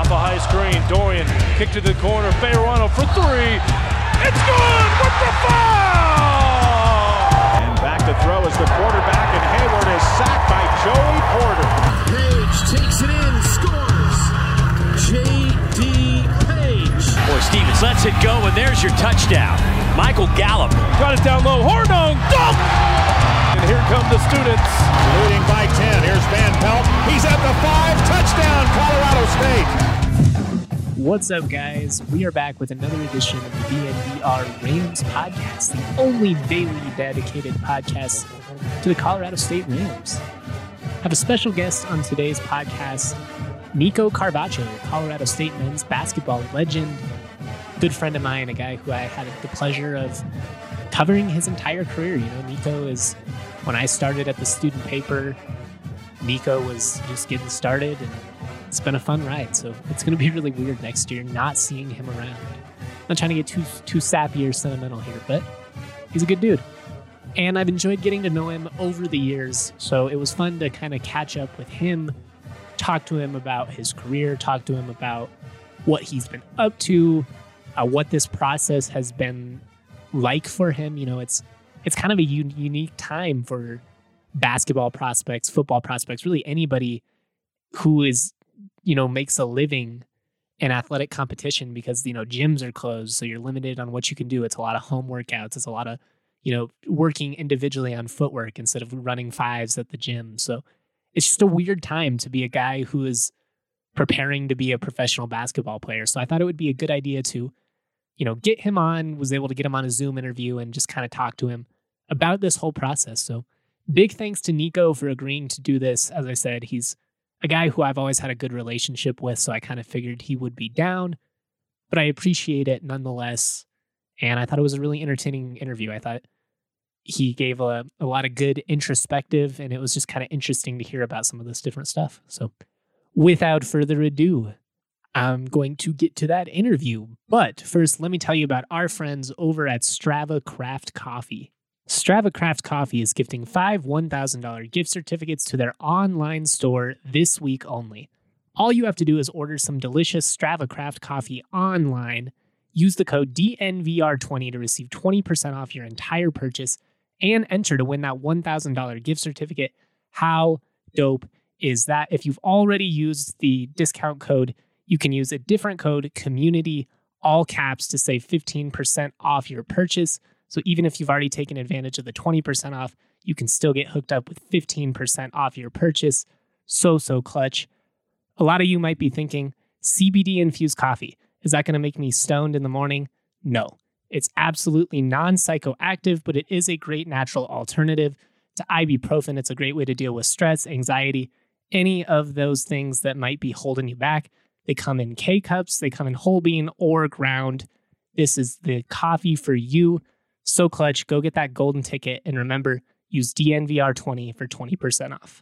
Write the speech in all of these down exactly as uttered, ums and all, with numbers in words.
off a high screen. Dorian kicked to the corner. Fayerano for three. It's good with the foul! And back to throw is the quarterback, and Hayward is sacked by Joey Porter. Page takes it in, scores. J D. Page. Boy, Stevens lets it go, and there's your touchdown. Michael Gallup. Got it down low. Hornung, dunk! And here come the students. Leading by ten. Here's Van Pelt. He's at the five. Touchdown, Colorado State. What's up, guys? We are back with another edition of the D N V R Rams podcast, the only daily dedicated podcast to the Colorado State Rams. I have a special guest on today's podcast, Nico Carvacho, Colorado State men's basketball legend, good friend of mine, a guy who I had the pleasure of covering his entire career. You know, Nico is, when I started at the student paper, Nico was just getting started, and it's been a fun ride. So it's going to be really weird next year not seeing him around. I'm not trying to get too too sappy or sentimental here, but he's a good dude. And I've enjoyed getting to know him over the years. So it was fun to kind of catch up with him, talk to him about his career, talk to him about what he's been up to, uh, what this process has been like for him. You know, it's it's kind of a un- unique time for basketball prospects, football prospects, really anybody who is, you know, makes a living in athletic competition, because, you know, gyms are closed. So you're limited on what you can do. It's a lot of home workouts. It's a lot of, you know, working individually on footwork instead of running fives at the gym. So it's just a weird time to be a guy who is preparing to be a professional basketball player. So I thought it would be a good idea to, you know, get him on, was able to get him on a Zoom interview and just kind of talk to him about this whole process. So big thanks to Nico for agreeing to do this. As I said, he's a guy who I've always had a good relationship with, so I kind of figured he would be down, but I appreciate it nonetheless. And I thought it was a really entertaining interview. I thought he gave a, a lot of good introspective, and it was just kind of interesting to hear about some of this different stuff. So without further ado, I'm going to get to that interview. But first, let me tell you about our friends over at Strava Craft Coffee. Strava Craft Coffee is gifting five one thousand dollars gift certificates to their online store this week only. All you have to do is order some delicious Strava Craft coffee online. Use the code D N V R twenty to receive twenty percent off your entire purchase and enter to win that one thousand dollars gift certificate. How dope is that? If you've already used the discount code, you can use a different code, community, all caps, to save fifteen percent off your purchase. So even if you've already taken advantage of the twenty percent off, you can still get hooked up with fifteen percent off your purchase. So, so clutch. A lot of you might be thinking, C B D infused coffee, is that going to make me stoned in the morning? No, it's absolutely non-psychoactive, but it is a great natural alternative to ibuprofen. It's a great way to deal with stress, anxiety, any of those things that might be holding you back. They come in K-cups, they come in whole bean or ground. This is the coffee for you. So clutch, go get that golden ticket, and remember, use D N V R twenty for twenty percent off.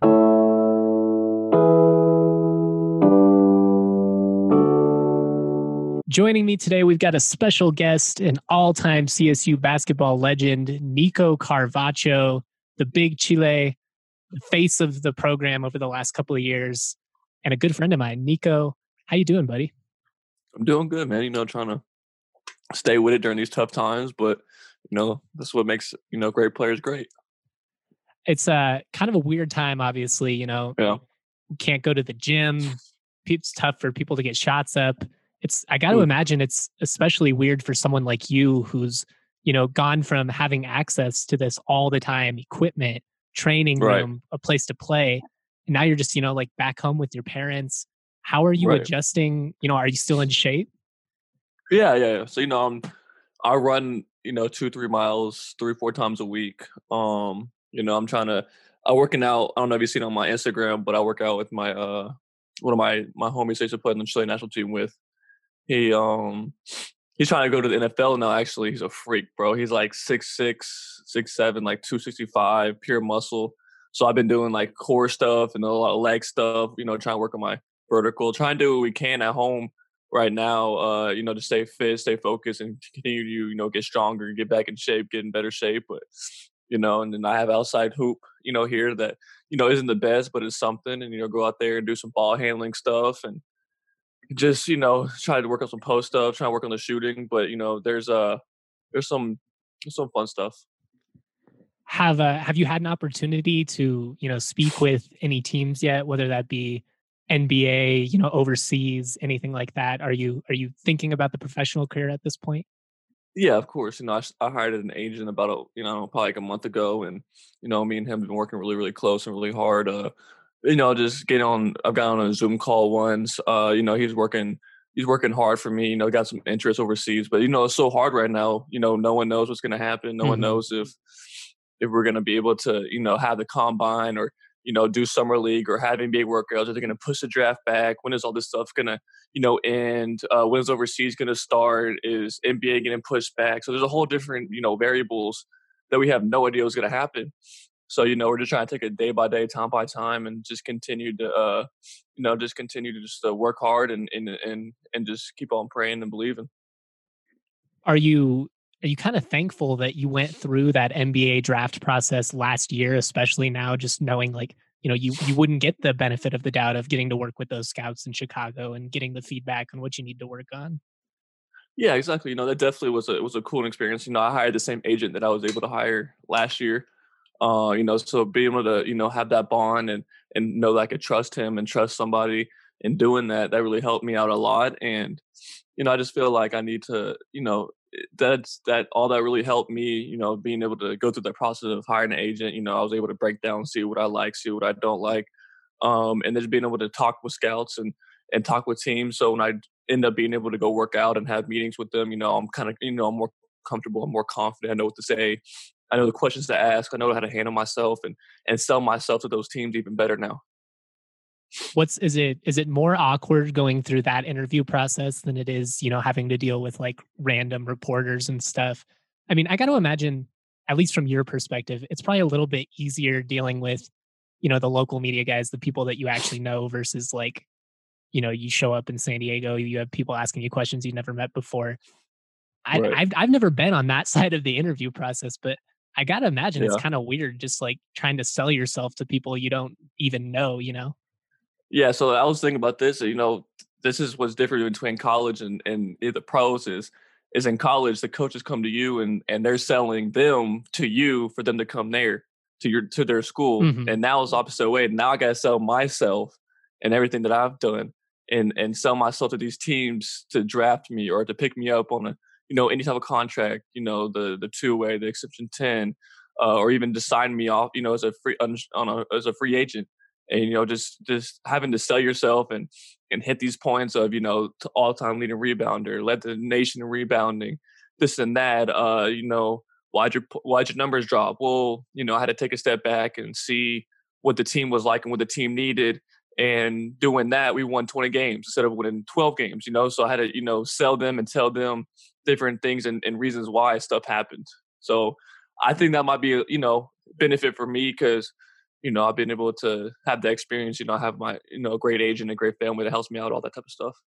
Joining me today, we've got a special guest, an all-time C S U basketball legend, Nico Carvacho, the big Chile, the face of the program over the last couple of years, and a good friend of mine. Nico, how you doing, buddy? I'm doing good, man. You know, trying to stay with it during these tough times, but you know, this is what makes, you know, great players great. It's uh, kind of a weird time, obviously. You know, yeah. You can't go to the gym. It's tough for people to get shots up. It's I got to imagine it's especially weird for someone like you who's, you know, gone from having access to this all the time, equipment, training room, right, a place to play. And now you're just, you know, like back home with your parents. How are you right. adjusting? You know, are you still in shape? Yeah, yeah. yeah. So, you know, I'm, I run, you know, two, three miles, three, four times a week. Um, you know, I'm trying to, I'm working out. I don't know if you've seen on my Instagram, but I work out with my, uh, one of my, my homies I used to play on the Chilean national team with. He, um, he's trying to go to the N F L now. Actually, he's a freak, bro. He's like six, six, six, seven, like two sixty-five, pure muscle. So I've been doing like core stuff and a lot of leg stuff, you know, trying to work on my vertical, trying to do what we can at home right now, uh, you know, to stay fit, stay focused, and continue to, you know, get stronger, get back in shape, get in better shape. But, you know, and then I have outside hoop, you know, here that, you know, isn't the best, but it's something. And, you know, go out there and do some ball handling stuff and just, you know, try to work on some post stuff, try to work on the shooting. But, you know, there's uh there's some some fun stuff. Have uh, have you had an opportunity to, you know, speak with any teams yet, whether that be N B A, you know, overseas, anything like that? Are you are you thinking about the professional career at this point? Yeah, of course. You know, I, s- I hired an agent about a you know probably like a month ago, and you know, me and him have been working really really close and really hard. Uh, you know, just getting on. I've got on a Zoom call once. Uh, you know, he's working. He's working hard for me. You know, got some interest overseas, but you know, it's so hard right now. You know, no one knows what's going to happen. No one Mhm. knows if if we're going to be able to, you know, have the combine or you know do summer league or have N B A workouts. Are they going to push the draft back? When is all this stuff going to you know, end? Uh, when's overseas going to start? Is N B A getting pushed back? So there's a whole different, you know, variables that we have no idea what's going to happen. So, you know, we're just trying to take it day by day, time by time, and just continue to, uh, you know, just continue to just uh, work hard and, and, and, and just keep on praying and believing. Are you are you kind of thankful that you went through that N B A draft process last year, especially now, just knowing like, you know, you you wouldn't get the benefit of the doubt of getting to work with those scouts in Chicago and getting the feedback on what you need to work on? Yeah, exactly. You know, that definitely was a, it was a cool experience. You know, I hired the same agent that I was able to hire last year. Uh, you know, so being able to, you know, have that bond and and know that I could trust him and trust somebody in doing that, that really helped me out a lot. And, you know, I just feel like I need to, you know, eh, that's that all that really helped me, you know, being able to go through the process of hiring an agent. You know, I was able to break down, see what I like, see what I don't like. Um, and then being able to talk with scouts and and talk with teams. So when I end up being able to go work out and have meetings with them, you know, I'm kind of, you know, I'm more comfortable, I'm more confident, I know what to say. I know the questions to ask. I know how to handle myself and and sell myself to those teams even better now. What's is it is it more awkward going through that interview process than it is, you know, having to deal with like random reporters and stuff? I mean, I got to imagine, at least from your perspective, it's probably a little bit easier dealing with, you know, the local media guys, the people that you actually know versus like, you know, you show up in San Diego, you have people asking you questions you never met before. I, Right. I've I've never been on that side of the interview process, but I gotta imagine it's Yeah. kind of weird, just like trying to sell yourself to people you don't even know. You know? Yeah. So I was thinking about this. You know, this is what's different between college and and the pros is is in college the coaches come to you and and they're selling them to you for them to come there to your to their school. Hmm. And now it's opposite way. Now I gotta sell myself and everything that I've done and and sell myself to these teams to draft me or to pick me up on a you know any type of contract. You know the the two way, the exception ten, uh, or even to sign me off. You know as a free on, on a as a free agent and you know just just having to sell yourself and and hit these points of you know to all-time leading rebounder, led the nation in rebounding, this and that. Uh, you know, why'd your why'd your numbers drop? Well, you know, I had to take a step back and see what the team was like and what the team needed. And doing that, we won twenty games instead of winning twelve games. You know, so I had to you know sell them and tell them different things and, and reasons why stuff happened. So I think that might be a you know benefit for me because you know, I've been able to have that experience. You know, I have my, you know, great agent, a great family that helps me out, all that type of stuff.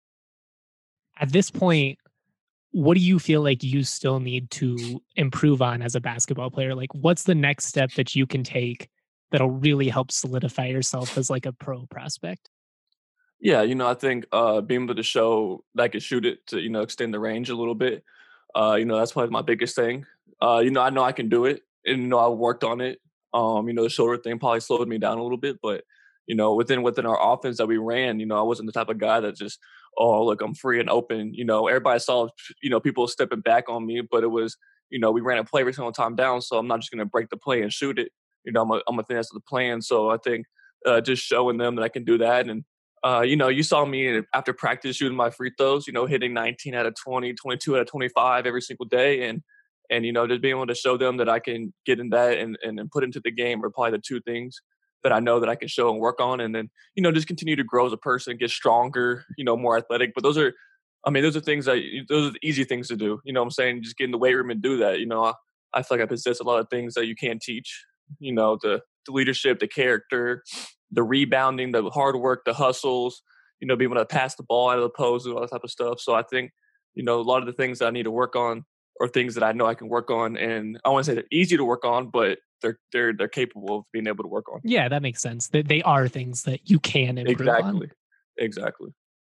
At this point, what do you feel like you still need to improve on as a basketball player? Like, what's the next step that you can take that'll really help solidify yourself as like a pro prospect? Yeah, you know, I think uh, being able to show that I can shoot it to, you know, extend the range a little bit. Uh, you know, that's probably my biggest thing. Uh, you know, I know I can do it, and you know, I worked on it. Um, you know, the shoulder thing probably slowed me down a little bit, but you know, within within our offense that we ran, you know, I wasn't the type of guy that just, oh, look, I'm free and open. You know, everybody saw, you know, people stepping back on me, but it was, you know, we ran a play every single time down, so I'm not just going to break the play and shoot it. You know, I'm a, I'm a finesse of the plan. So I think uh, just showing them that I can do that and uh, you know, you saw me after practice shooting my free throws, you know, hitting nineteen out of twenty, twenty-two out of twenty-five every single day. And, and, you know, just being able to show them that I can get in that and, and, and put into the game are probably the two things that I know that I can show and work on. And then, you know, just continue to grow as a person, get stronger, you know, more athletic. But those are, I mean, those are things that, those are the easy things to do. You know what I'm saying? Just get in the weight room and do that. You know, I, I feel like I possess a lot of things that you can't teach, you know, the, the leadership, the character, the rebounding, the hard work, the hustles, you know, being able to pass the ball out of the post and all that type of stuff. So I think, you know, a lot of the things that I need to work on are things that I know I can work on. And I want to say they're easy to work on, but they're they're they're capable of being able to work on. Yeah, that makes sense. That they are things that you can improve on. Exactly. Exactly.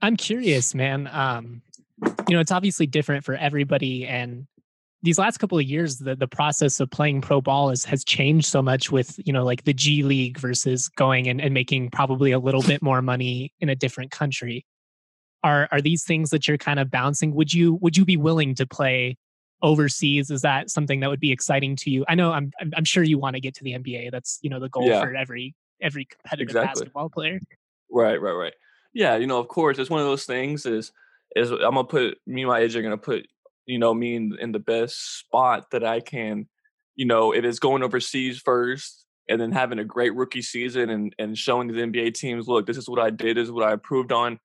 I'm curious, man. Um, you know, it's obviously different for everybody, and these last couple of years, the the process of playing pro ball is, has changed so much with, you know, like the G League versus going and, and making probably a little bit more money in a different country. Are are these things that you're kind of bouncing? Would you would you be willing to play overseas? Is that something that would be exciting to you? I know I'm I'm, I'm sure you want to get to the N B A. That's, you know, the goal Yeah, for every every competitive exactly. basketball player. Right, right, right. Yeah, you know, of course, it's one of those things. Is is I'm gonna put me and my agent are gonna put you know me in, in the best spot that I can. You know, if it's going overseas first, and then having a great rookie season, and and showing the N B A teams, look, this is what I did, this is what I improved on,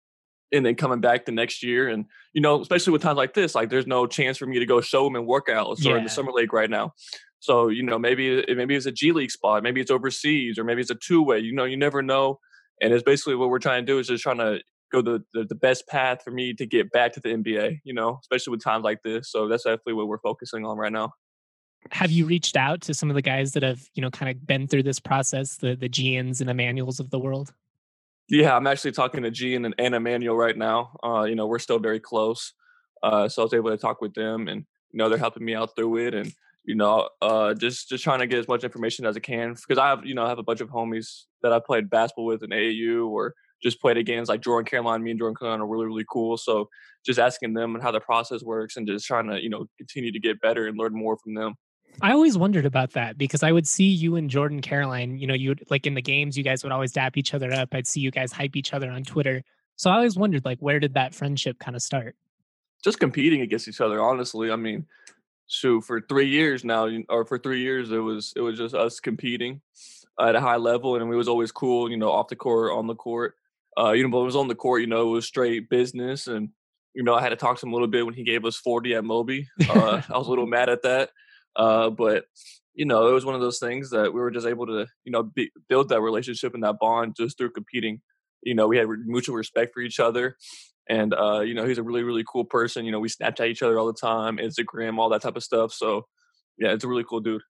and then coming back the next year, and you know, especially with times like this, like there's no chance for me to go show them in workouts or in the Yeah. summer league right now. So you know, maybe it- maybe it's a G League spot, maybe it's overseas, or maybe it's a two way. You know, you never know. And it's basically what we're trying to do is just trying to go the, the the best path for me to get back to the N B A. You know, especially with times like this. So that's definitely what we're focusing on right now. Have you reached out to some of the guys that have, you know, kind of been through this process, the the Gians and Emmanuels of the world? Yeah, I'm actually talking to Gian and, and Emmanuel right now. Uh, you know, we're still very close. Uh, so I was able to talk with them, and you know, they're helping me out through it, and you know, uh, just just trying to get as much information as I can because I have, you know, I have a bunch of homies that I played basketball with in A A U or just played against, like Jordan Caroline. Me and Jordan Caroline are really really cool. So just asking them and how the process works, and just trying to you know continue to get better and learn more from them. I always wondered about that because I would see you and Jordan Caroline, you know, you would like in the games, you guys would always dap each other up. I'd see you guys hype each other on Twitter. So I always wondered, like, where did that friendship kind of start? Just competing against each other, honestly. I mean, shoot, for three years now, you- or for three years, it was it was just us competing at a high level, and it was always cool, you know, off the court, on the court. Uh, you know, but it was on the court, you know, it was straight business, and you know, I had to talk to him a little bit when he gave us forty at Moby. Uh, I was a little mad at that, uh, but you know, it was one of those things that we were just able to, you know, be, build that relationship and that bond just through competing. You know, we had re- mutual respect for each other, and uh, you know, he's a really, really cool person. You know, we Snapchat each other all the time, Instagram, all that type of stuff. So, yeah, it's a really cool dude.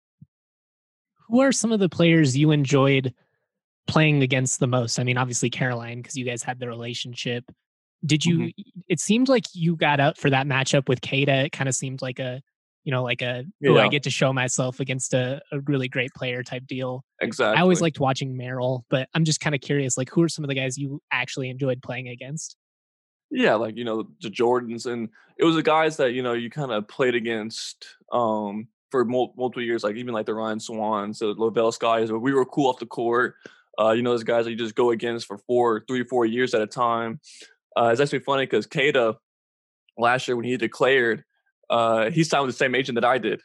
Who are some of the players you enjoyed playing against the most? I mean, obviously Caroline, because you guys had the relationship. Did hmm you, it seemed like you got up for that matchup with Kada. It kind of seemed like a, you know, like a, oh, I Yeah, get to show myself against a, a really great player type deal. I always exactly. liked watching Merrill, but I'm just kind of curious, like, who are some of the guys you actually enjoyed playing against? Yeah, like you know, the Jordans, and it was the guys that you know you kind of played against um for mul- multiple years, like even like the Ryan Swans, the Lavelle Skies, where we were cool off the court. Uh, you know, those guys that you just go against for four, three, four years at a time. Uh, it's actually funny because Kada last year when he declared, uh, he signed with the same agent that I did.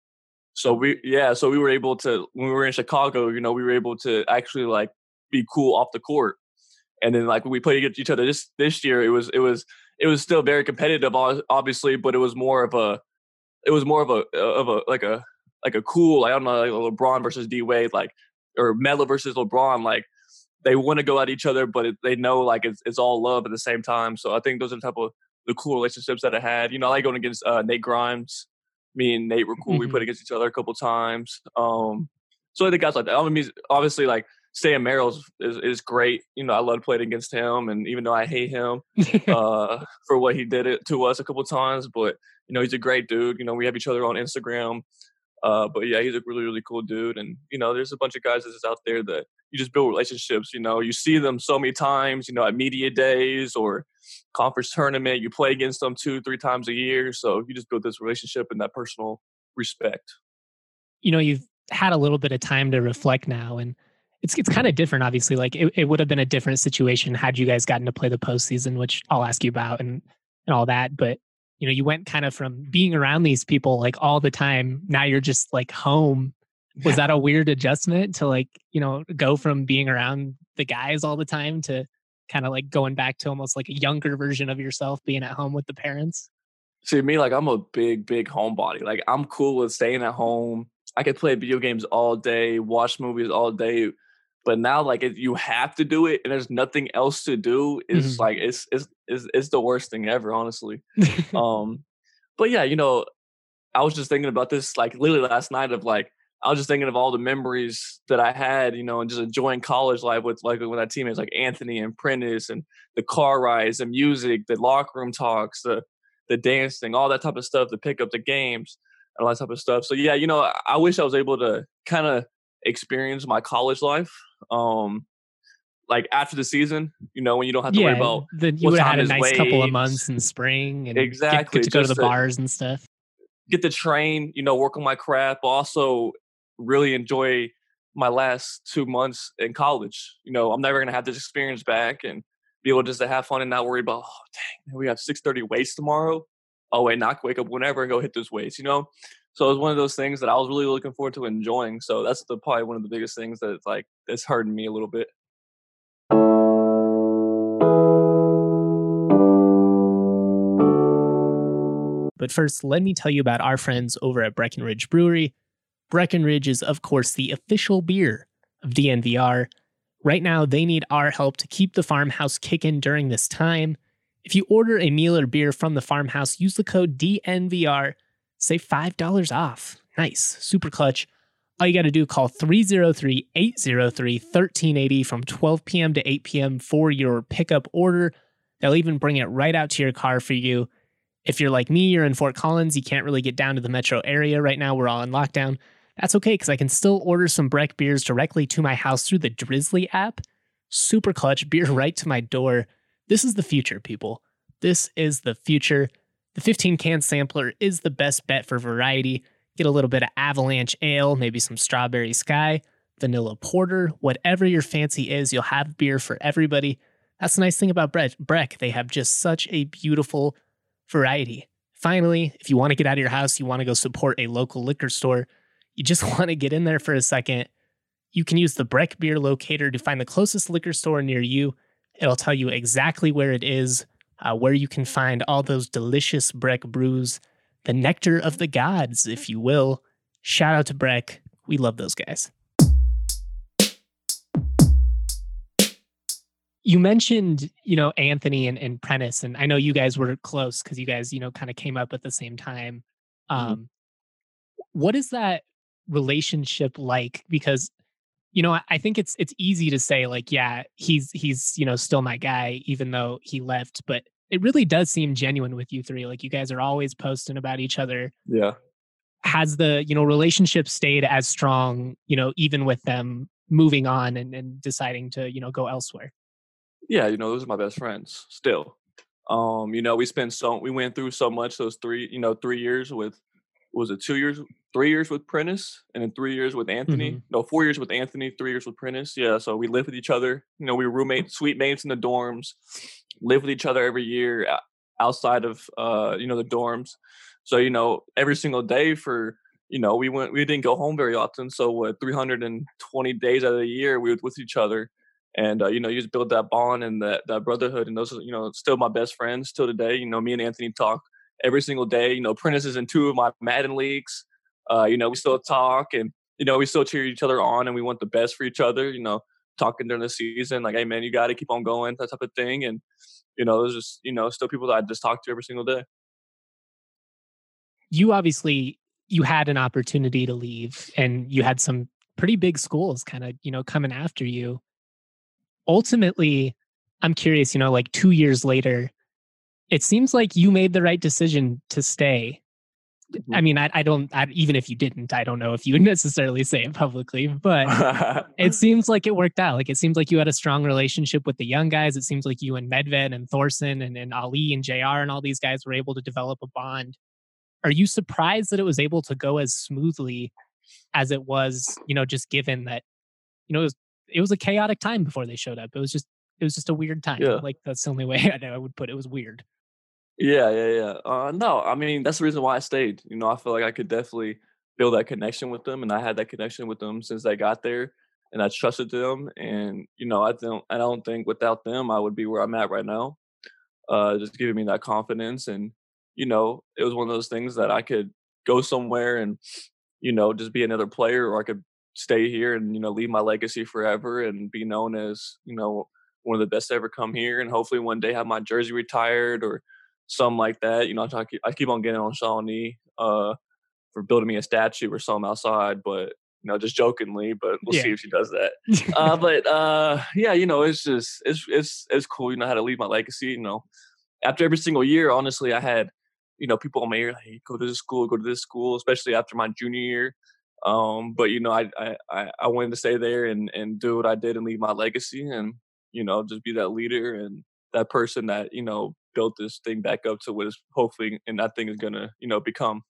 So we, yeah, so we were able to when we were in Chicago, you know, we were able to actually like be cool off the court. And then like when we played against each other this this year, it was it was it was still very competitive, ob- obviously, but it was more of a it was more of a of a like a like a cool, I don't know, like LeBron versus D Wade, like or Melo versus LeBron, like they want to go at each other, but it, they know like it's it's all love at the same time. So I think those are the type of the cool relationships that I had. You know, I like going against uh, Nate Grimes. Me and Nate were cool. We played Mhm. against each other a couple times. Um, so I think guys like that. I mean, obviously, like Sam Merrill's is, is great. You know, I love playing against him, and even though I hate him uh, for what he did it to us a couple times, but you know, he's a great dude. You know, we have each other on Instagram. Uh, but yeah, he's a really, really cool dude. And, you know, there's a bunch of guys that's out there that you just build relationships. You know, you see them so many times, you know, at media days or conference tournament, you play against them two, three times a year. So you just build this relationship and that personal respect. You know, you've had a little bit of time to reflect now, and it's it's kind of different, obviously. Like it, it would have been a different situation had you guys gotten to play the postseason, which I'll ask you about and and all that. But you know, you went kind of from being around these people like all the time. Now you're just like home. Was that a weird adjustment to like, you know, go from being around the guys all the time to kind of like going back to almost like a younger version of yourself being at home with the parents? See, me, like, I'm a big, big homebody. Like, I'm cool with staying at home. I could play video games all day, watch movies all day. But now, like, if you have to do it and there's nothing else to do, it's Mhm. like, it's, it's, it's, it's the worst thing ever, honestly. Um, but yeah, you know, I was just thinking about this, like, literally last night of like, I was just thinking of all the memories that I had, you know, and just enjoying college life with like with my teammates like Anthony and Prentice and the car rides, the music, the locker room talks, the the dancing, all that type of stuff, the pick up the games, and all that type of stuff. So yeah, you know, I, I wish I was able to kind of experience my college life. Um, like after the season, you know, when you don't have to worry Yeah, about then you what would have had time a is nice couple of waves. months in spring and get, Exactly, get to go to the just to bars and stuff. get to train, you know, work on my craft, but also really enjoy my last two months in college. You know, I'm never gonna have this experience back and be able just to have fun and not worry about, oh dang, man, we have six thirty weights tomorrow. Oh wait, not wake up whenever and go hit those weights, you know? So it was one of those things that I was really looking forward to enjoying. So that's the probably one of the biggest things that's like that's hurting me a little bit. But first, let me tell you about our friends over at Breckenridge Brewery. Breckenridge is, of course, the official beer of D N V R. Right now, they need our help to keep the farmhouse kicking during this time. If you order a meal or beer from the farmhouse, use the code D N V R, save five dollars off. Nice, super clutch. All you got to do, call three oh three, eight oh three, one three eight oh from twelve p.m. to eight p.m. for your pickup order. They'll even bring it right out to your car for you. If you're like me, you're in Fort Collins, you can't really get down to the metro area right now, we're all in lockdown. That's okay, because I can still order some Breck beers directly to my house through the Drizzly app. Super clutch, beer right to my door. This is the future, people. This is the future. The fifteen can sampler is the best bet for variety. Get a little bit of Avalanche Ale, maybe some Strawberry Sky, Vanilla Porter, whatever your fancy is, you'll have beer for everybody. That's the nice thing about Breck. They have just such a beautiful variety. Finally, if you want to get out of your house, you want to go support a local liquor store, you just want to get in there for a second, you can use the Breck Beer Locator to find the closest liquor store near you. It'll tell you exactly where it is, uh, where you can find all those delicious Breck brews, the nectar of the gods, if you will. Shout out to Breck. We love those guys. You mentioned, you know, Anthony and, and Prentice, and I know you guys were close because you guys, you know, kind of came up at the same time. Um, mm-hmm. What is that relationship like? Because, you know, I, I think it's it's easy to say like, yeah, he's he's you know still my guy, even though he left. But it really does seem genuine with you three. Like you guys are always posting about each other. Yeah. Has the you know relationship stayed as strong, you know, even with them moving on and, and deciding to you know go elsewhere? Yeah, you know, those are my best friends still. Um, you know, we spent so we went through so much those three, you know, three years with was it two years, three years with Prentice, and then three years with Anthony. Mm-hmm. No, four years with Anthony, three years with Prentice. Yeah, so we lived with each other. You know, we were roommates, suite mates in the dorms, lived with each other every year outside of uh, you know, the dorms. So, you know, every single day for, you know, we went we didn't go home very often. So what three hundred twenty days out of the year we were with each other. And, uh, you know, you just build that bond and that, that brotherhood. And those are, you know, still my best friends till today. You know, me and Anthony talk every single day. You know, Prentice is in two of my Madden leagues. Uh, you know, we still talk and, you know, we still cheer each other on and we want the best for each other, you know, talking during the season. Like, hey, man, you got to keep on going, that type of thing. And, you know, there's just, you know, still people that I just talk to every single day. You obviously, you had an opportunity to leave and you had some pretty big schools kind of, you know, coming after you. Ultimately, I'm curious, you know, like two years later, it seems like you made the right decision to stay. Mm-hmm. I mean, I, I don't, I, even if you didn't, I don't know if you would necessarily say it publicly, but it seems like it worked out. Like, it seems like you had a strong relationship with the young guys. It seems like you and Medved and Thorson and, and Ali and J R and all these guys were able to develop a bond. Are you surprised that it was able to go as smoothly as it was, you know, just given that, you know, it was, it was a chaotic time before they showed up. It was just, it was just a weird time. Yeah. Like that's the only way I would put it. It was weird. Yeah, yeah, yeah. Uh, no, I mean, that's the reason why I stayed. You know, I feel like I could definitely build that connection with them. And I had that connection with them since they got there and I trusted them. And, you know, I don't, I don't think without them, I would be where I'm at right now. Uh, just giving me that confidence. And, you know, it was one of those things that I could go somewhere and, you know, just be another player, or I could stay here and, you know, leave my legacy forever and be known as, you know, one of the best to ever come here. And hopefully one day have my jersey retired or something like that. You know, I, talk, I keep on getting on Shawnee uh, for building me a statue or something outside. But, you know, just jokingly, but we'll Yeah. see if she does that. uh, but uh, yeah, you know, it's just it's it's it's cool. You know how to leave my legacy. You know, after every single year, honestly, I had you know people on my ear like, hey, go to this school, go to this school, especially after my junior year. Um, but you know, I I I I wanted to stay there and and do what I did and leave my legacy, and you know, just be that leader and that person that you know built this thing back up to what is hopefully and that thing is gonna you know become.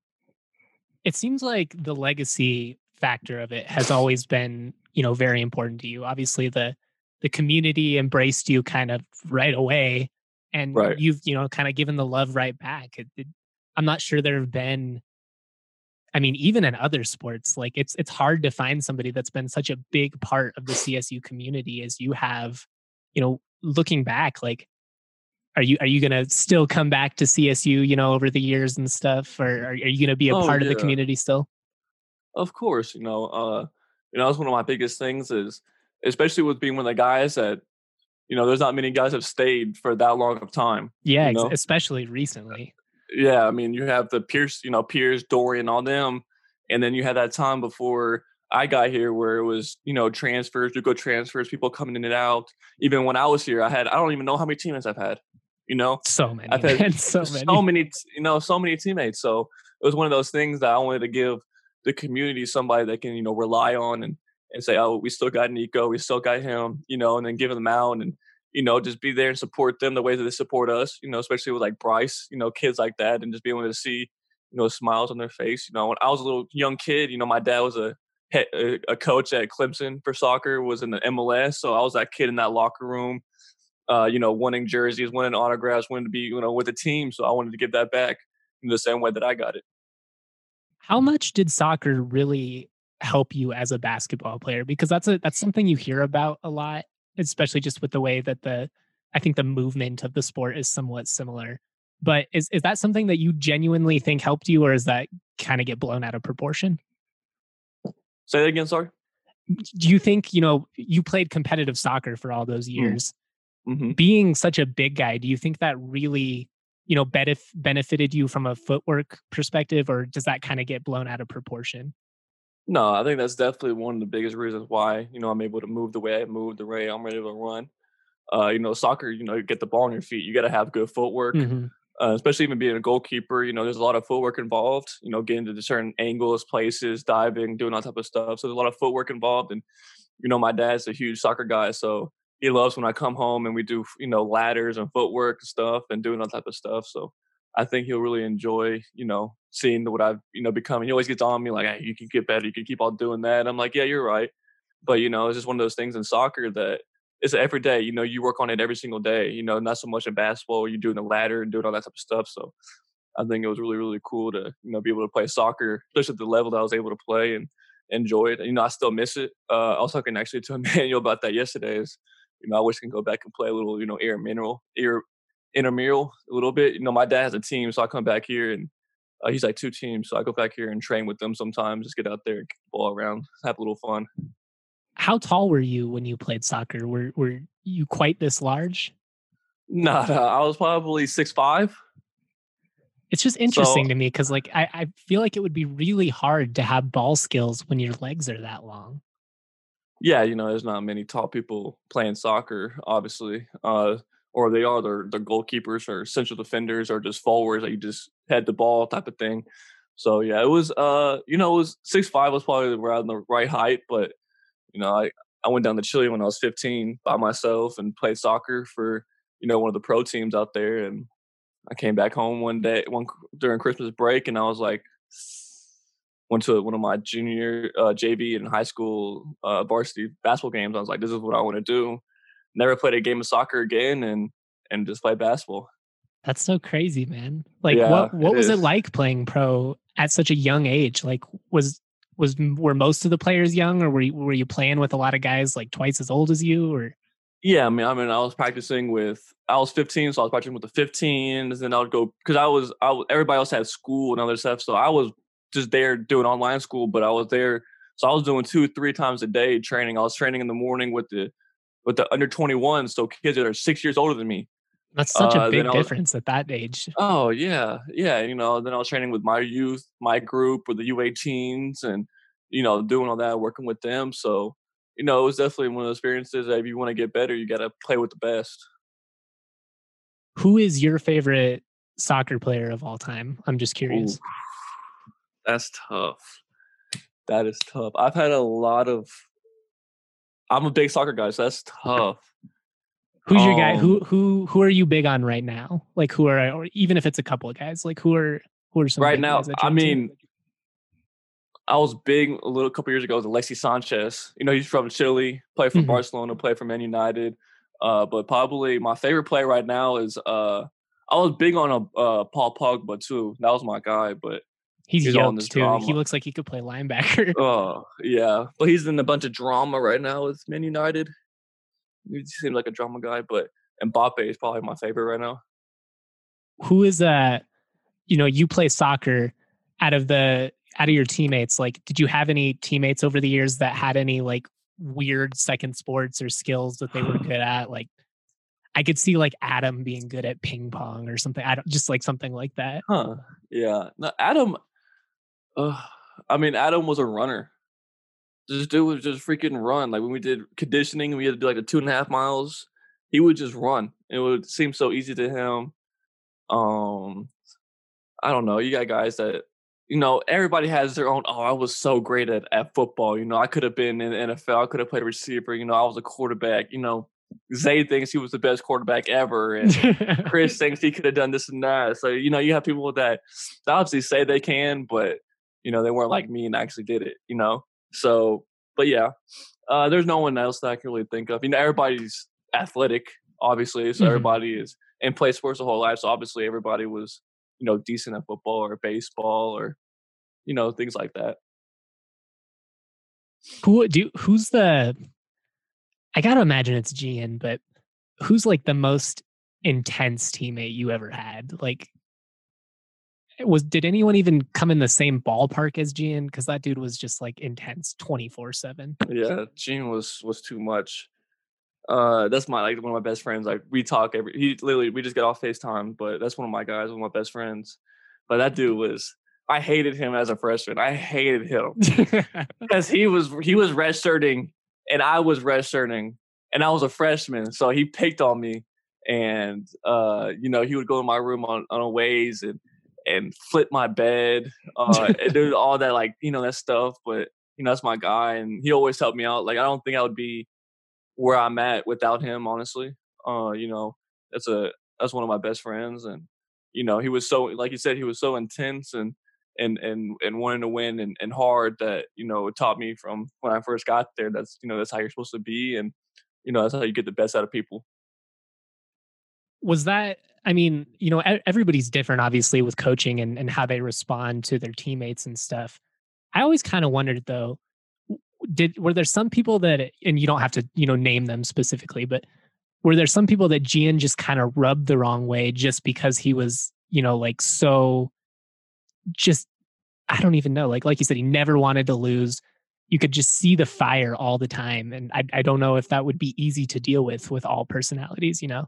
It seems like the legacy factor of it has always been, you know, very important to you. Obviously, the the community embraced you kind of right away, and Right. you've, you know, kind of given the love right back. It, it, I'm not sure there have been. I mean, even in other sports, like it's it's hard to find somebody that's been such a big part of the C S U community as you have. You know, looking back, like, are you are you gonna still come back to C S U, you know, over the years and stuff, or are, are you gonna be a Oh part of the yeah, community still? of course. You know, uh, you know, that's one of my biggest things is, especially with being one of the guys that, you know, there's not many guys have stayed for that long of time. Yeah, You ex- know, especially recently. yeah. I mean, you have the Pierce, you know, Pierce, Dorian, all them, and then you had that time before I got here where it was, you know, transfers, you go transfers, people coming in and out. Even when I was here, I had I don't even know how many teammates I've had. You know, So many, I've had man, so so many. many, t- you know, so many teammates. So it was one of those things that I wanted to give the community somebody that can, you know, rely on and and say, oh, we still got Nico, we still got him, you know, and then give them out and you know just be there and support them the way that they support us, you know, especially with like Bryce, you know, kids like that, and just being able to see, you know, smiles on their face. You know, when I was a little young kid, you know, my dad was a he- a a coach at Clemson for soccer, was in the M L S, so I was that kid in that locker room uh, you know, winning jerseys, winning autographs, wanting to be, you know, with the team. So I wanted to give that back in the same way that I got it. How much did soccer really help you as a basketball player? Because that's a that's something you hear about a lot, especially just with the way that the I think the movement of the sport is somewhat similar. But is is that something that you genuinely think helped you, or is that kind of get blown out of proportion? Say that again, sorry. Do you think, you know, you played competitive soccer for all those years? Mm-hmm. Being such a big guy, do you think that really, you know, benef- benefited you from a footwork perspective, or does that kind of get blown out of proportion? No, I think that's definitely one of the biggest reasons why, you know, I'm able to move the way I move, the way I'm ready to run. Uh, you know, soccer, you know, you get the ball on your feet. You got to have good footwork, Hmm. uh, especially even being a goalkeeper. You know, there's a lot of footwork involved, you know, getting to certain angles, places, diving, doing all type of stuff. So there's a lot of footwork involved. And, you know, my dad's a huge soccer guy. So he loves when I come home and we do, you know, ladders and footwork and stuff and doing all type of stuff. So I think he'll really enjoy, you know, seeing what I've, you know, become. He always gets on me like, hey, you can get better. You can keep on doing that. I'm like, yeah, you're right. But, you know, it's just one of those things in soccer that it's every day. You know, you work on it every single day, you know, not so much in basketball where you're doing the ladder and doing all that type of stuff. So I think it was really, really cool to, you know, be able to play soccer, especially at the level that I was able to play and enjoy it. You know, I still miss it. Uh, I was talking actually to Emmanuel about that yesterday is, you know, I wish I can go back and play a little, you know, air mineral, air intramural a little bit. You know, my dad has a team, so I come back here and uh, he's like two teams. So I go back here and train with them sometimes, just get out there and kick the ball around, have a little fun. How tall were you when you played soccer? Were were you quite this large? Nah, nah, I was probably six five. It's just So interesting to me because, like, I, I feel like it would be really hard to have ball skills when your legs are that long. yeah, you know, there's not many tall people playing soccer, obviously. Uh, or they are they're, they're goalkeepers or central defenders or just forwards that you just head the ball type of thing. So yeah, it was uh, you know, it was six five was probably around the right height, but you know, I, I went down to Chile when I was fifteen by myself and played soccer for, you know, one of the pro teams out there. And I came back home one day, one during Christmas break, and I was like, went to one of my junior uh, J V and high school uh, varsity basketball games. I was like, this is what I want to do. Never played a game of soccer again, and and just play basketball. That's so crazy, man. Like, Yeah, what what it was it is. like playing pro at such a young age? Like, was was were most of the players young, or were you, were you playing with a lot of guys like twice as old as you? Or Yeah, I mean, I mean, I was practicing with. I was fifteen, so I was practicing with the fifteens, and then I would go because I was. I was, everybody else had school and other stuff, so I was just there doing online school. But I was there, so I was doing two, three times a day training. I was training in the morning with the with the under twenty-one, so kids that are six years older than me. that's such a Uh, then big I was. difference at that age. Oh yeah, yeah. You know, then I was training with my youth, my group, with the U eighteens, and you know, doing all that, working with them. So, you know, it was definitely one of those experiences that if you want to get better, you got to play with the best. Who is your favorite soccer player of all time? I'm just curious. Ooh, that's tough. That is tough. I've had a lot of. I'm a big soccer guy, so that's tough. Who's um, your guy? Who who who are you big on right now? Like who are, or even if it's a couple of guys, like who are who are some right big now? guys that you're I into? mean, I was big a little couple years ago with Alexis Sanchez. You know, he's from Chile, played for Mhm. Barcelona, played for Man United. Uh, but probably my favorite player right now is uh, I was big on a uh, Paul Pogba too. That was my guy, but he's, he's on this yoked too. drama. He looks like he could play linebacker. Oh yeah, but he's in a bunch of drama right now with Man United. He seems like a drama guy, but Mbappe is probably my favorite right now. Who is uh you know, you play soccer. Out of the out of your teammates, like, did you have any teammates over the years that had any like weird second sports or skills that they were good at? Like, I could see like Adam being good at ping pong or something. I don't just like something like that. Huh? Yeah. No, Adam. Uh, I mean, Adam was a runner. This dude was just freaking run. Like when we did conditioning, we had to do like the two and a half miles. He would just run. It would seem so easy to him. Um, I don't know. You got guys that, you know, everybody has their own. Oh, I was so great at, at football. You know, I could have been in the N F L. I could have played a receiver. You know, I was a quarterback. You know, Zay thinks he was the best quarterback ever, and Chris thinks he could have done this and that. So, you know, you have people that obviously say they can, but, you know, they weren't like me and actually did it, you know? So, but yeah, uh, there's no one else that I can really think of. You know, everybody's athletic, obviously. So Mhm. everybody is and play sports the whole life. So obviously everybody was, you know, decent at football or baseball or, you know, things like that. Who do who's the I gotta imagine it's Gian, but who's like the most intense teammate you ever had? Like, was did anyone even come in the same ballpark as Gian? Because that dude was just like intense twenty-four seven. Yeah, Gene was was too much. Uh, that's my like one of my best friends. Like we talk every. He literally we just get off FaceTime, but that's one of my guys, one of my best friends. But that dude was. I hated him as a freshman. I hated him because he was he was redshirting and I was redshirting and I was a freshman, so he picked on me. And uh, you know, he would go in my room on on a ways and and flip my bed, uh, and do all that like you know that stuff. But you know, that's my guy, and he always helped me out. Like I don't think I would be where I'm at without him, honestly. Uh, you know, that's a that's one of my best friends, and you know, he was so like you said, he was so intense and and and and wanting to win and, and hard that you know it taught me from when I first got there. That's you know that's how you're supposed to be, and you know that's how you get the best out of people. Was that, I mean, you know, e- everybody's different, obviously, with coaching and, and how they respond to their teammates and stuff. I always kind of wondered, though, w- did were there some people that, and you don't have to, you know, name them specifically, but were there some people that Gian just kind of rubbed the wrong way just because he was, you know, like so just, I don't even know, like like you said, he never wanted to lose. You could just see the fire all the time, and I I don't know if that would be easy to deal with with all personalities, you know.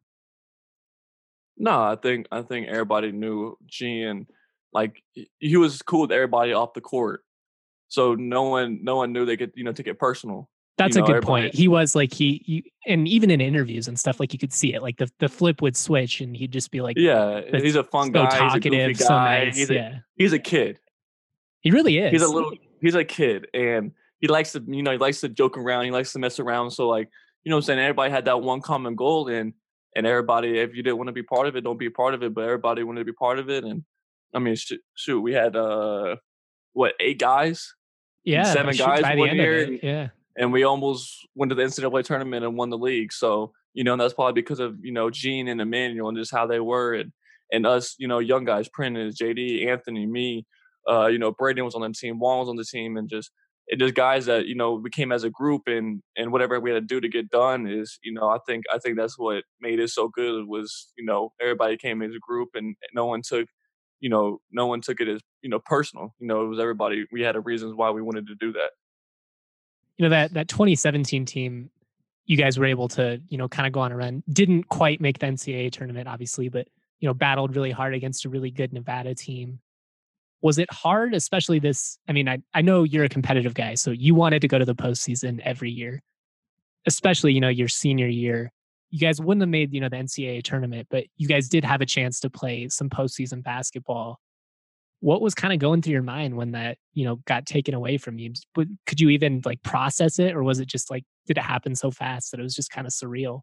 No, I think I think everybody knew Gene. Like he he was cool with everybody off the court, so no one no one knew they could you know take it personal. That's You a know, good everybody- point. He was like he, he, and even in interviews and stuff, like you could see it. Like the the flip would switch, and he'd just be like, Yeah, That's he's a fun so guy. He's a talkative, goofy so guy. nice. He's a, Yeah, he's a kid. he really is. He's a little. He's a kid, and he likes to you know he likes to joke around. He likes to mess around. So like you know what I'm saying, everybody had that one common goal, and and everybody, if you didn't want to be part of it, don't be a part of it. But everybody wanted to be part of it, and I mean, shoot, shoot we had uh what eight guys, yeah, seven shoot, guys by the one end year, of it. Yeah, and we almost went to the N C double A tournament and won the league. So, you know, and that's probably because of, you know, Gene and Emmanuel and just how they were and, and us, you know, young guys, Prentice, J D, Anthony, me, uh, you know, Braden was on the team, Juan was on the team, and just it just guys that, you know, we came as a group and and whatever we had to do to get done is, you know, I think I think that's what made it so good was, you know, everybody came as a group and no one took you know, no one took it as, you know, personal. You know, it was everybody we had a reasons why we wanted to do that. you know that that twenty seventeen team, you guys were able to, you know, kind of go on a run. Didn't quite make the N C double A tournament, obviously, but you know, battled really hard against a really good Nevada team. Was it hard, especially this? I mean, I, I know you're a competitive guy, so you wanted to go to the postseason every year, especially, you know, your senior year. You guys wouldn't have made, you know, the N C double A tournament, but you guys did have a chance to play some postseason basketball. What was kind of going through your mind when that, you know, got taken away from you? But could you even like process it, or was it just like, did it happen so fast that it was just kind of surreal?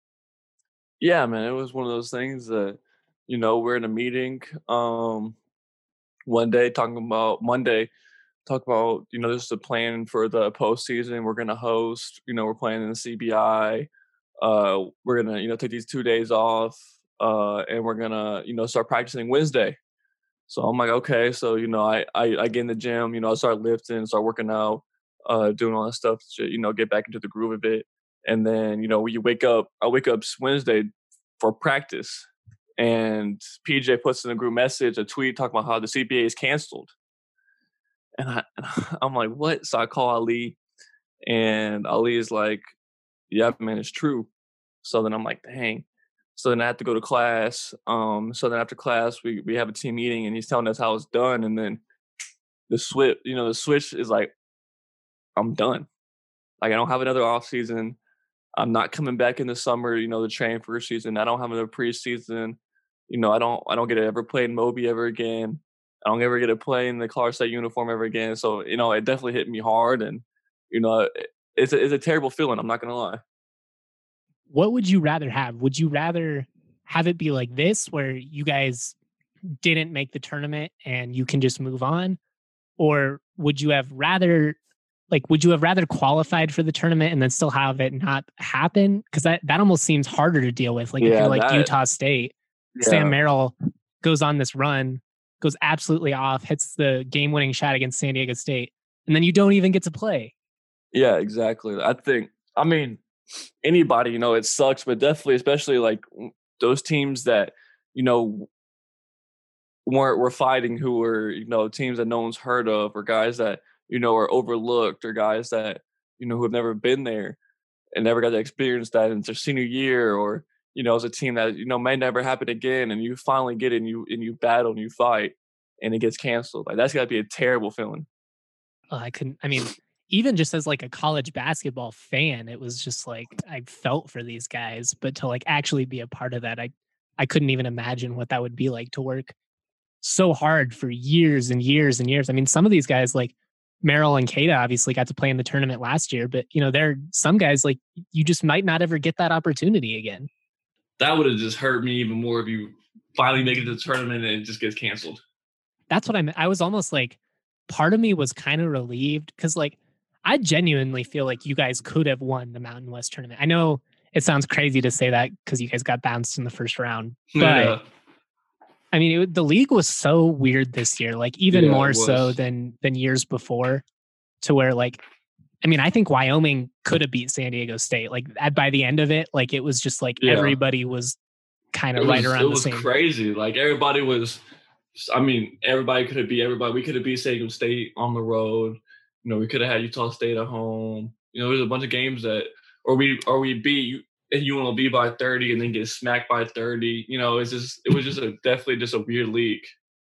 Yeah, man, it was one of those things that, you know, we're in a meeting um, one day talking about Monday, talk about, you know, this is the plan for the postseason. We're going to host, you know, we're playing in the C B I. Uh, we're going to, you know, take these two days off uh, and we're going to, you know, start practicing Wednesday. So I'm like, okay. So, you know, I, I, I get in the gym, you know, I start lifting, start working out, uh, doing all that stuff to, you know, get back into the groove of it. And then, you know, when you wake up, I wake up Wednesday for practice and P J puts in a group message, a tweet talking about how the C B A is canceled. And I, I'm like, what? So I call Ali and Ali is like, yeah, man, it's true. So then I'm like, dang. So then I have to go to class. Um, so then after class, we, we have a team meeting and he's telling us how it's done. And then the switch, you know, the switch is like, I'm done. Like, I don't have another off season. I'm not coming back in the summer, you know, to train for a season. I don't have another preseason. You know, I don't I don't get to ever play in Moby ever again. I don't ever get to play in the Colorado State uniform ever again. So, you know, it definitely hit me hard. And, you know, it's a, it's a terrible feeling. I'm not going to lie. What would you rather have? Would you rather have it be like this, where you guys didn't make the tournament and you can just move on? Or would you have rather, like, would you have rather qualified for the tournament and then still have it not happen? Because that, that almost seems harder to deal with. Like, yeah, if you're like that, Utah State, yeah. Sam Merrill goes on this run, goes absolutely off, hits the game-winning shot against San Diego State, and then you don't even get to play. Yeah, exactly. I think, I mean, anybody, you know, it sucks, but definitely, especially like those teams that, you know, weren't were fighting, who were, you know, teams that no one's heard of, or guys that, you know, are overlooked, or guys that, you know, who have never been there and never got to experience that in their senior year, or, you know, as a team that, you know, may never happen again, and you finally get it and you and you battle and you fight and it gets canceled. Like, that's gotta be a terrible feeling. Oh, I couldn't, I mean, even just as like a college basketball fan, it was just like, I felt for these guys, but to like actually be a part of that, I, I couldn't even imagine what that would be like to work so hard for years and years and years. I mean, some of these guys like Merrill and Keita obviously got to play in the tournament last year, but you know, there are some guys like you just might not ever get that opportunity again. That would have just hurt me even more if you finally make it to the tournament and it just gets canceled. That's what I meant. I was almost like, part of me was kind of relieved because like, I genuinely feel like you guys could have won the Mountain West tournament. I know it sounds crazy to say that because you guys got bounced in the first round, but yeah. I mean, it, the league was so weird this year, like even yeah, more so than than years before, to where like, I mean, I think Wyoming could have beat San Diego State. Like at, by the end of it, like it was just like yeah. everybody was kind of right around the same. It was crazy. Like everybody was, I mean, everybody could have beat everybody. We could have beat San Diego State on the road. You know, we could have had Utah State at home. You know, there's a bunch of games that, or we or we beat U N L V by thirty and then get smacked by thirty. You know, it's just it was just a definitely just a weird league.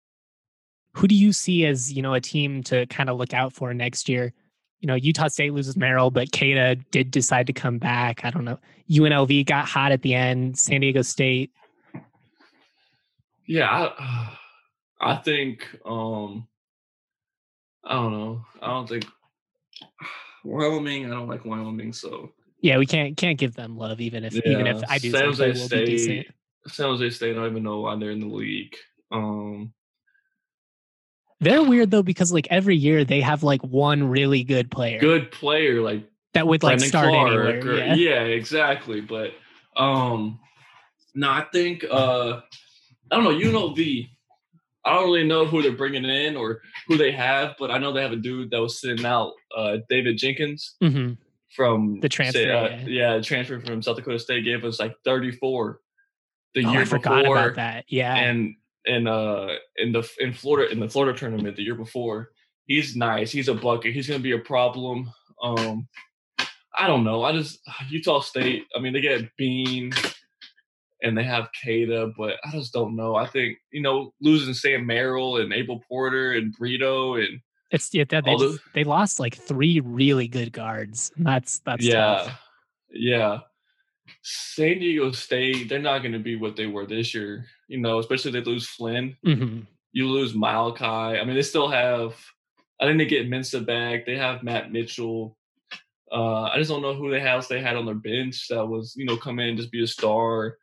Who do you see as, you know, a team to kind of look out for next year? You know, Utah State loses Merrill, but Keita did decide to come back. I don't know. U N L V got hot at the end. San Diego State. Yeah, I, I think. Um, I don't know. I don't think Wyoming. I don't like Wyoming, so yeah, we can't can't give them love, even if yeah. even if I do San Jose think they will be decent. San Jose State. I don't even know why they're in the league. Um, they're weird though because like every year they have like one really good player, good player like that would like Brandon start Clark anywhere. Or, yeah. yeah, exactly. But um, no, I think uh, I don't know. U N L V. I don't really know who they're bringing in or who they have, but I know they have a dude that was sitting out, uh, David Jenkins, mm-hmm. from the transfer. Say, uh, yeah. yeah, transfer from South Dakota State, gave us like thirty-four the oh, year I forgot before. About that. Yeah, and and uh, in the in Florida in the Florida tournament the year before, he's nice. He's a bucket. He's gonna be a problem. Um, I don't know. I just Utah State. I mean, they get Bean. and they have Kada, but I just don't know. I think, you know, losing Sam Merrill and Abel Porter and Brito and It's yeah, they, they, just, they lost like three really good guards. That's that's yeah, tough. yeah. San Diego State, they're not going to be what they were this year. You know, especially if they lose Flynn. Mm-hmm. You lose Malachi. I mean, they still have. I think they get Mensah back. They have Matt Mitchell. Uh, I just don't know who they have. They had on their bench that was, you know, come in and just be a star.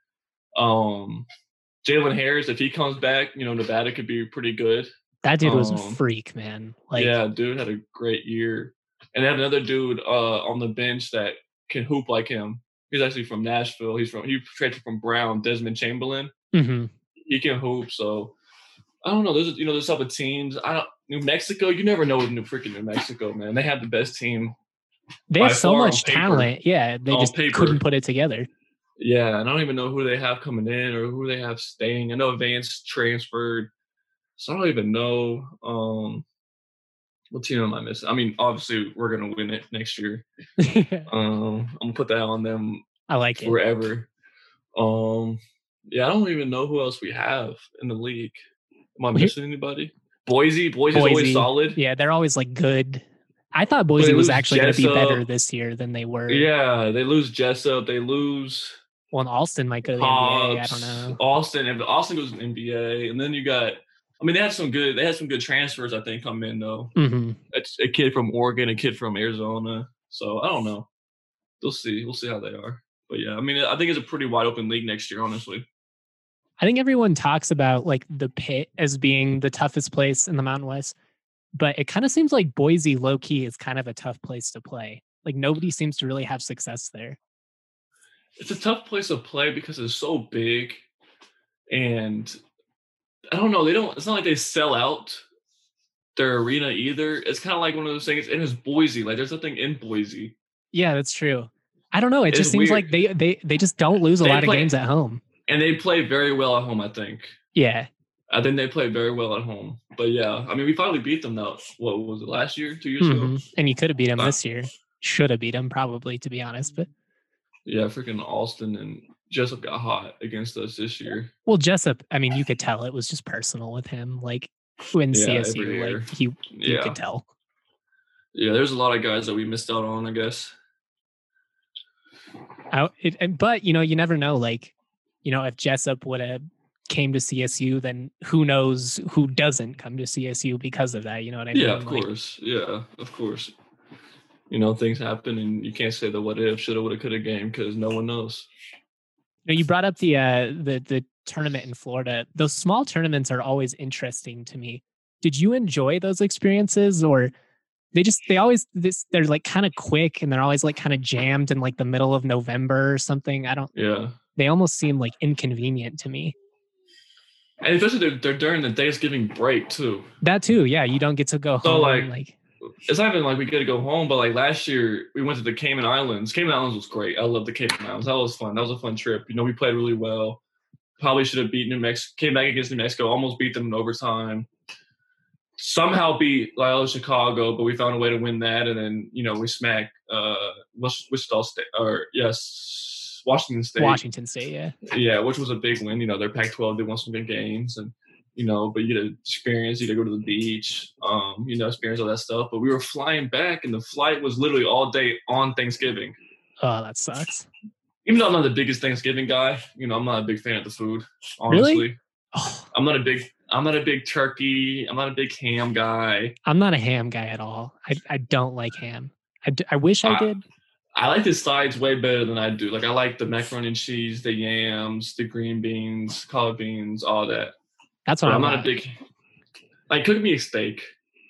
Um, Jalen Harris, if he comes back, you know, Nevada could be pretty good. That dude was um, a freak, man. Like, yeah, dude had a great year. And they have another dude uh, on the bench that can hoop like him. He's actually from Nashville. He's from he traded from Brown, Desmond Chamberlain. Mm-hmm. He can hoop. So I don't know. There's you know there's type of teams. I don't New Mexico. You never know with New freaking New Mexico, man. They have the best team. They have so much talent. Yeah, they just paper. couldn't put it together. Yeah, and I don't even know who they have coming in or who they have staying. I know Vance transferred, so I don't even know. Um, what team am I missing? I mean, obviously we're gonna win it next year. um, I'm gonna put that on them. I like forever. it. Um, yeah, I don't even know who else we have in the league. Am I missing anybody? Boise, Boise's Boise. always solid. Yeah, they're always like good. I thought Boise was actually going to be better this year than they were. Yeah, they lose Jessup. They lose. Well, and Austin might go to the Hobbs, N B A. I don't know. Austin, if Austin goes to the N B A, and then you got. I mean, they had some good. They had some good transfers. I think come in though. Mm-hmm. It's a kid from Oregon, a kid from Arizona. So I don't know. We'll see. We'll see how they are. But yeah, I mean, I think it's a pretty wide open league next year. Honestly. I think everyone talks about like the Pit as being the toughest place in the Mountain West, but it kind of seems like Boise low key is kind of a tough place to play. Like nobody seems to really have success there. It's a tough place to play because it's so big, and I don't know. They don't. It's not like they sell out their arena either. It's kind of like one of those things. And it's Boise. Like there's nothing in Boise. Yeah, that's true. I don't know. It it's just seems weird. like they they they just don't lose a they lot play, of games at home. And they play very well at home, I think. Yeah. I think they play very well at home. But yeah, I mean, we finally beat them though. What was it, last year, two years mm-hmm. ago? And you could have beat them uh, this year. Should have beat them probably, to be honest. But yeah, freaking Austin and Jessup got hot against us this year. Well, Jessup, I mean, you could tell it was just personal with him. Like in yeah, C S U, like he, you yeah. could tell. Yeah, there's a lot of guys that we missed out on, I guess. I, it, but you know, you never know. Like, you know, if Jessup would have came to C S U, then who knows who doesn't come to C S U because of that? You know what I mean? Yeah, of like, course. Yeah, of course. You know, things happen, and you can't say the what if, shoulda, woulda, coulda game because no one knows. You know, you brought up the uh, the the tournament in Florida. Those small tournaments are always interesting to me. Did you enjoy those experiences, or they just they always this they're like kind of quick and they're always like kind of jammed in like the middle of November or something? I don't. Yeah. They almost seem like inconvenient to me. And especially they're, they're during the Thanksgiving break too. That too, yeah. You don't get to go so home. Like, like, it's not even like we get to go home, but like last year we went to the Cayman Islands. Cayman Islands was great. I love the Cayman Islands. That was fun. That was a fun trip. You know, we played really well. Probably should have beat New Mexico. Came back against New Mexico. Almost beat them in overtime. Somehow beat Loyola Chicago, but we found a way to win that. And then you know we smacked uh, Wichita State, or yes, Washington State. Washington State, yeah. Yeah, which was a big win. You know, they're Pac twelve. They won some good games, and you know, but you get to experience. You get to go to the beach. Um, you know, experience all that stuff. But we were flying back, and the flight was literally all day on Thanksgiving. Oh, that sucks. Even though I'm not the biggest Thanksgiving guy, you know, I'm not a big fan of the food. Honestly, really? Oh. I'm not a big. I'm not a big turkey. I'm not a big ham guy. I'm not a ham guy at all. I I don't like ham. I, d- I wish I, I did. I like the sides way better than I do. Like I like the macaroni and cheese, the yams, the green beans, collard beans, all that. That's what but I'm not at. a big. Like cook me a steak.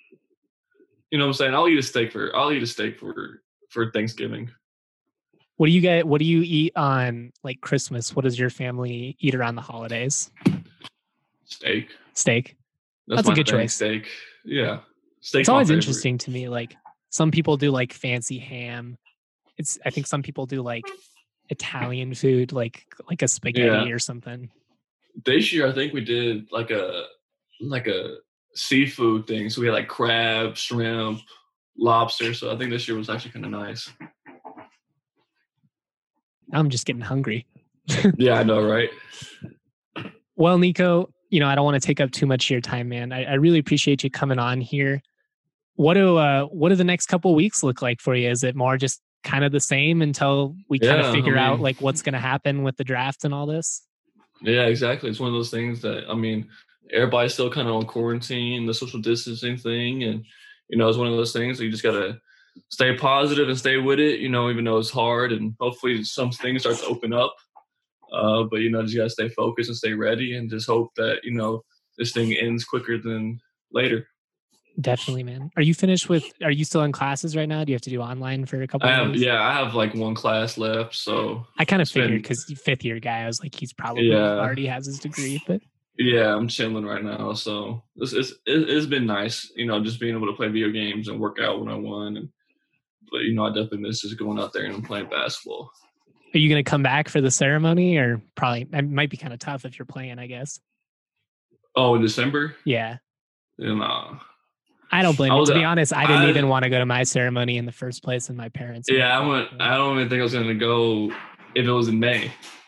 You know what I'm saying? I'll eat a steak for. I'll eat a steak for for Thanksgiving. What do you get? What do you eat on like Christmas? What does your family eat around the holidays? Steak. Steak. That's, That's a good thing, choice. Steak. Yeah. Steak. It's always interesting to me. Like some people do like fancy ham. It's. I think some people do like Italian food, like like a spaghetti yeah. or something. This year, I think we did like a like a seafood thing. So we had like crab, shrimp, lobster. So I think this year was actually kind of nice. I'm just getting hungry. Yeah, I know, right? Well, Nico, you know, I don't want to take up too much of your time, man. I, I really appreciate you coming on here. What do uh, what do the next couple of weeks look like for you? Is it more just kind of the same until we kind Yeah, of figure I out mean- like what's going to happen with the draft and all this? Yeah, exactly. It's one of those things that, I mean, everybody's still kind of on quarantine, the social distancing thing. And, you know, it's one of those things that you just got to stay positive and stay with it, you know, even though it's hard. And hopefully some things start to open up. Uh, but, you know, just got to stay focused and stay ready and just hope that, you know, this thing ends quicker than later. Definitely, man. Are you finished with, are you still in classes right now? Do you have to do online for a couple I of have, days? yeah, I have like one class left. So, I kind of it's been- figured because fifth year guy, I was like, he's probably Yeah. already has his degree, but yeah, I'm chilling right now. So, it's, it's, it- it's been nice, you know, just being able to play video games and work out when I want. And, but, you know, I definitely miss just going out there and playing basketball. are you going to come back for the ceremony or probably, it might be kind of tough if you're playing, I guess. Oh, in December? Yeah. Yeah, nah. I don't blame I you. was- To be honest, I didn't I- even want to go to my ceremony in the first place, and my parents. Yeah, I went. I don't even think I was going to go if it was in May.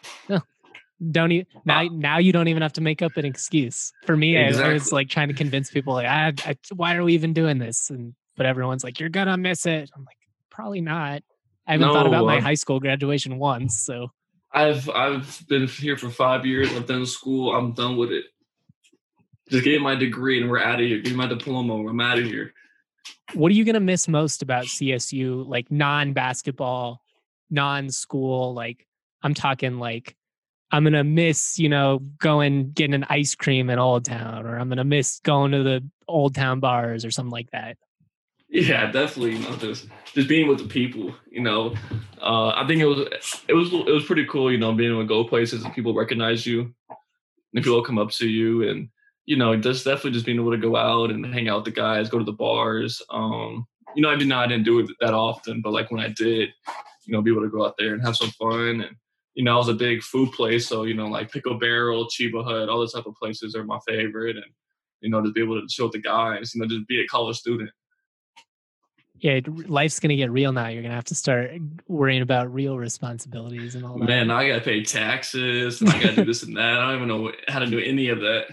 Don't even now. Now you don't even have to make up an excuse. For me, I, I was Exactly. like trying to convince people, like, I, I, why are we even doing this? And but everyone's like, you're gonna miss it. I'm like, probably not. I haven't thought about No, my I'm- high school graduation once, so I've I've been here for five years. I've done school. I'm done with it. Just get my degree and we're out of here. Give me my diploma. I'm out of here. what are you gonna miss most about C S U? Like non-basketball, non-school. Like I'm talking like. I'm going to miss, you know, going, getting an ice cream in Old Town, or I'm going to miss going to the Old Town bars or something like that. Yeah, definitely. You know, just just being with the people. You know, uh, I think it was it was it was pretty cool. You know, being able to go places and people recognize you, and people come up to you, and you know, just definitely just being able to go out and hang out with the guys, go to the bars. Um, you know, I did not I didn't do it that often, but like when I did, you know, be able to go out there and have some fun. And you know, I was a big food place, so you know, like Pickle Barrel, Chiba Hut, all those type of places are my favorite. And you know, just be able to chill with the guys. You know, just be a college student. Yeah, life's going to get real now. You're going to have to start worrying about real responsibilities and all that. Man, I gotta pay taxes and I gotta do this and that. I don't even know what, how to do any of that.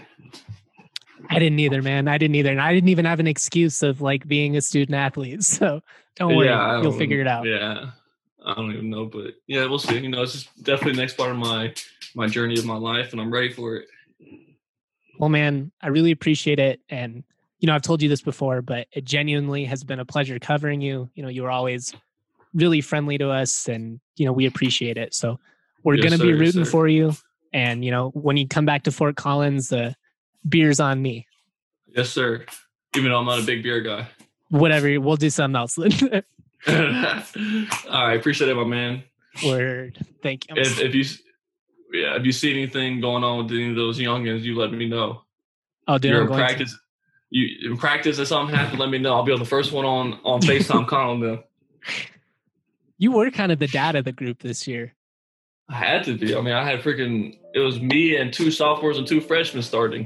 I didn't either, man. I didn't either. And I didn't even have an excuse of like being a student athlete. So don't worry. I You'll don't- figure it out. Yeah, I don't even know, but yeah, we'll see. You know, it's just definitely the next part of my my journey of my life, and I'm ready for it. Well, man, I really appreciate it. And, you know, I've told you this before, but it genuinely has been a pleasure covering you. You know, you were always really friendly to us and, you know, we appreciate it. So we're Yes, going to be sir, yes, rooting sir. for you. And, you know, when you come back to Fort Collins, the beer's on me. Yes, sir. Even though I'm not a big beer guy. Whatever. We'll do something else. All right, appreciate it, my man. Word. Thank you. If if you yeah, if you see anything going on with any of those youngins, you let me know. Oh, dude, You're I'm in going to. practice. You in practice if something happens, let me know. I'll be on the first one on on FaceTime calling them. You were kind of the dad of the group this year. I had to be. I mean, I had freaking. It was me and two sophomores and two freshmen starting.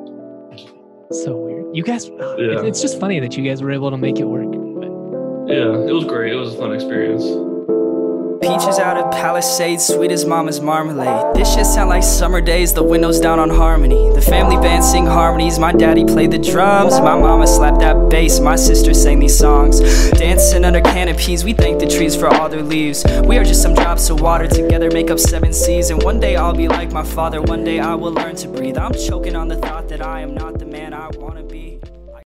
So weird. You guys, oh, Yeah. it- it's just funny that you guys were able to make it work. But Yeah, it was great. It was a fun experience. Peaches out of Palisades, sweet as mama's marmalade. This shit sound like summer days, the windows down on Harmony. The family band sing harmonies, my daddy played the drums. My mama slapped that bass, my sister sang these songs. Dancing under canopies, we thank the trees for all their leaves. We are just some drops of water, together make up seven seas. And one day I'll be like my father, one day I will learn to breathe. I'm choking on the thought that I am not the man I wanna be.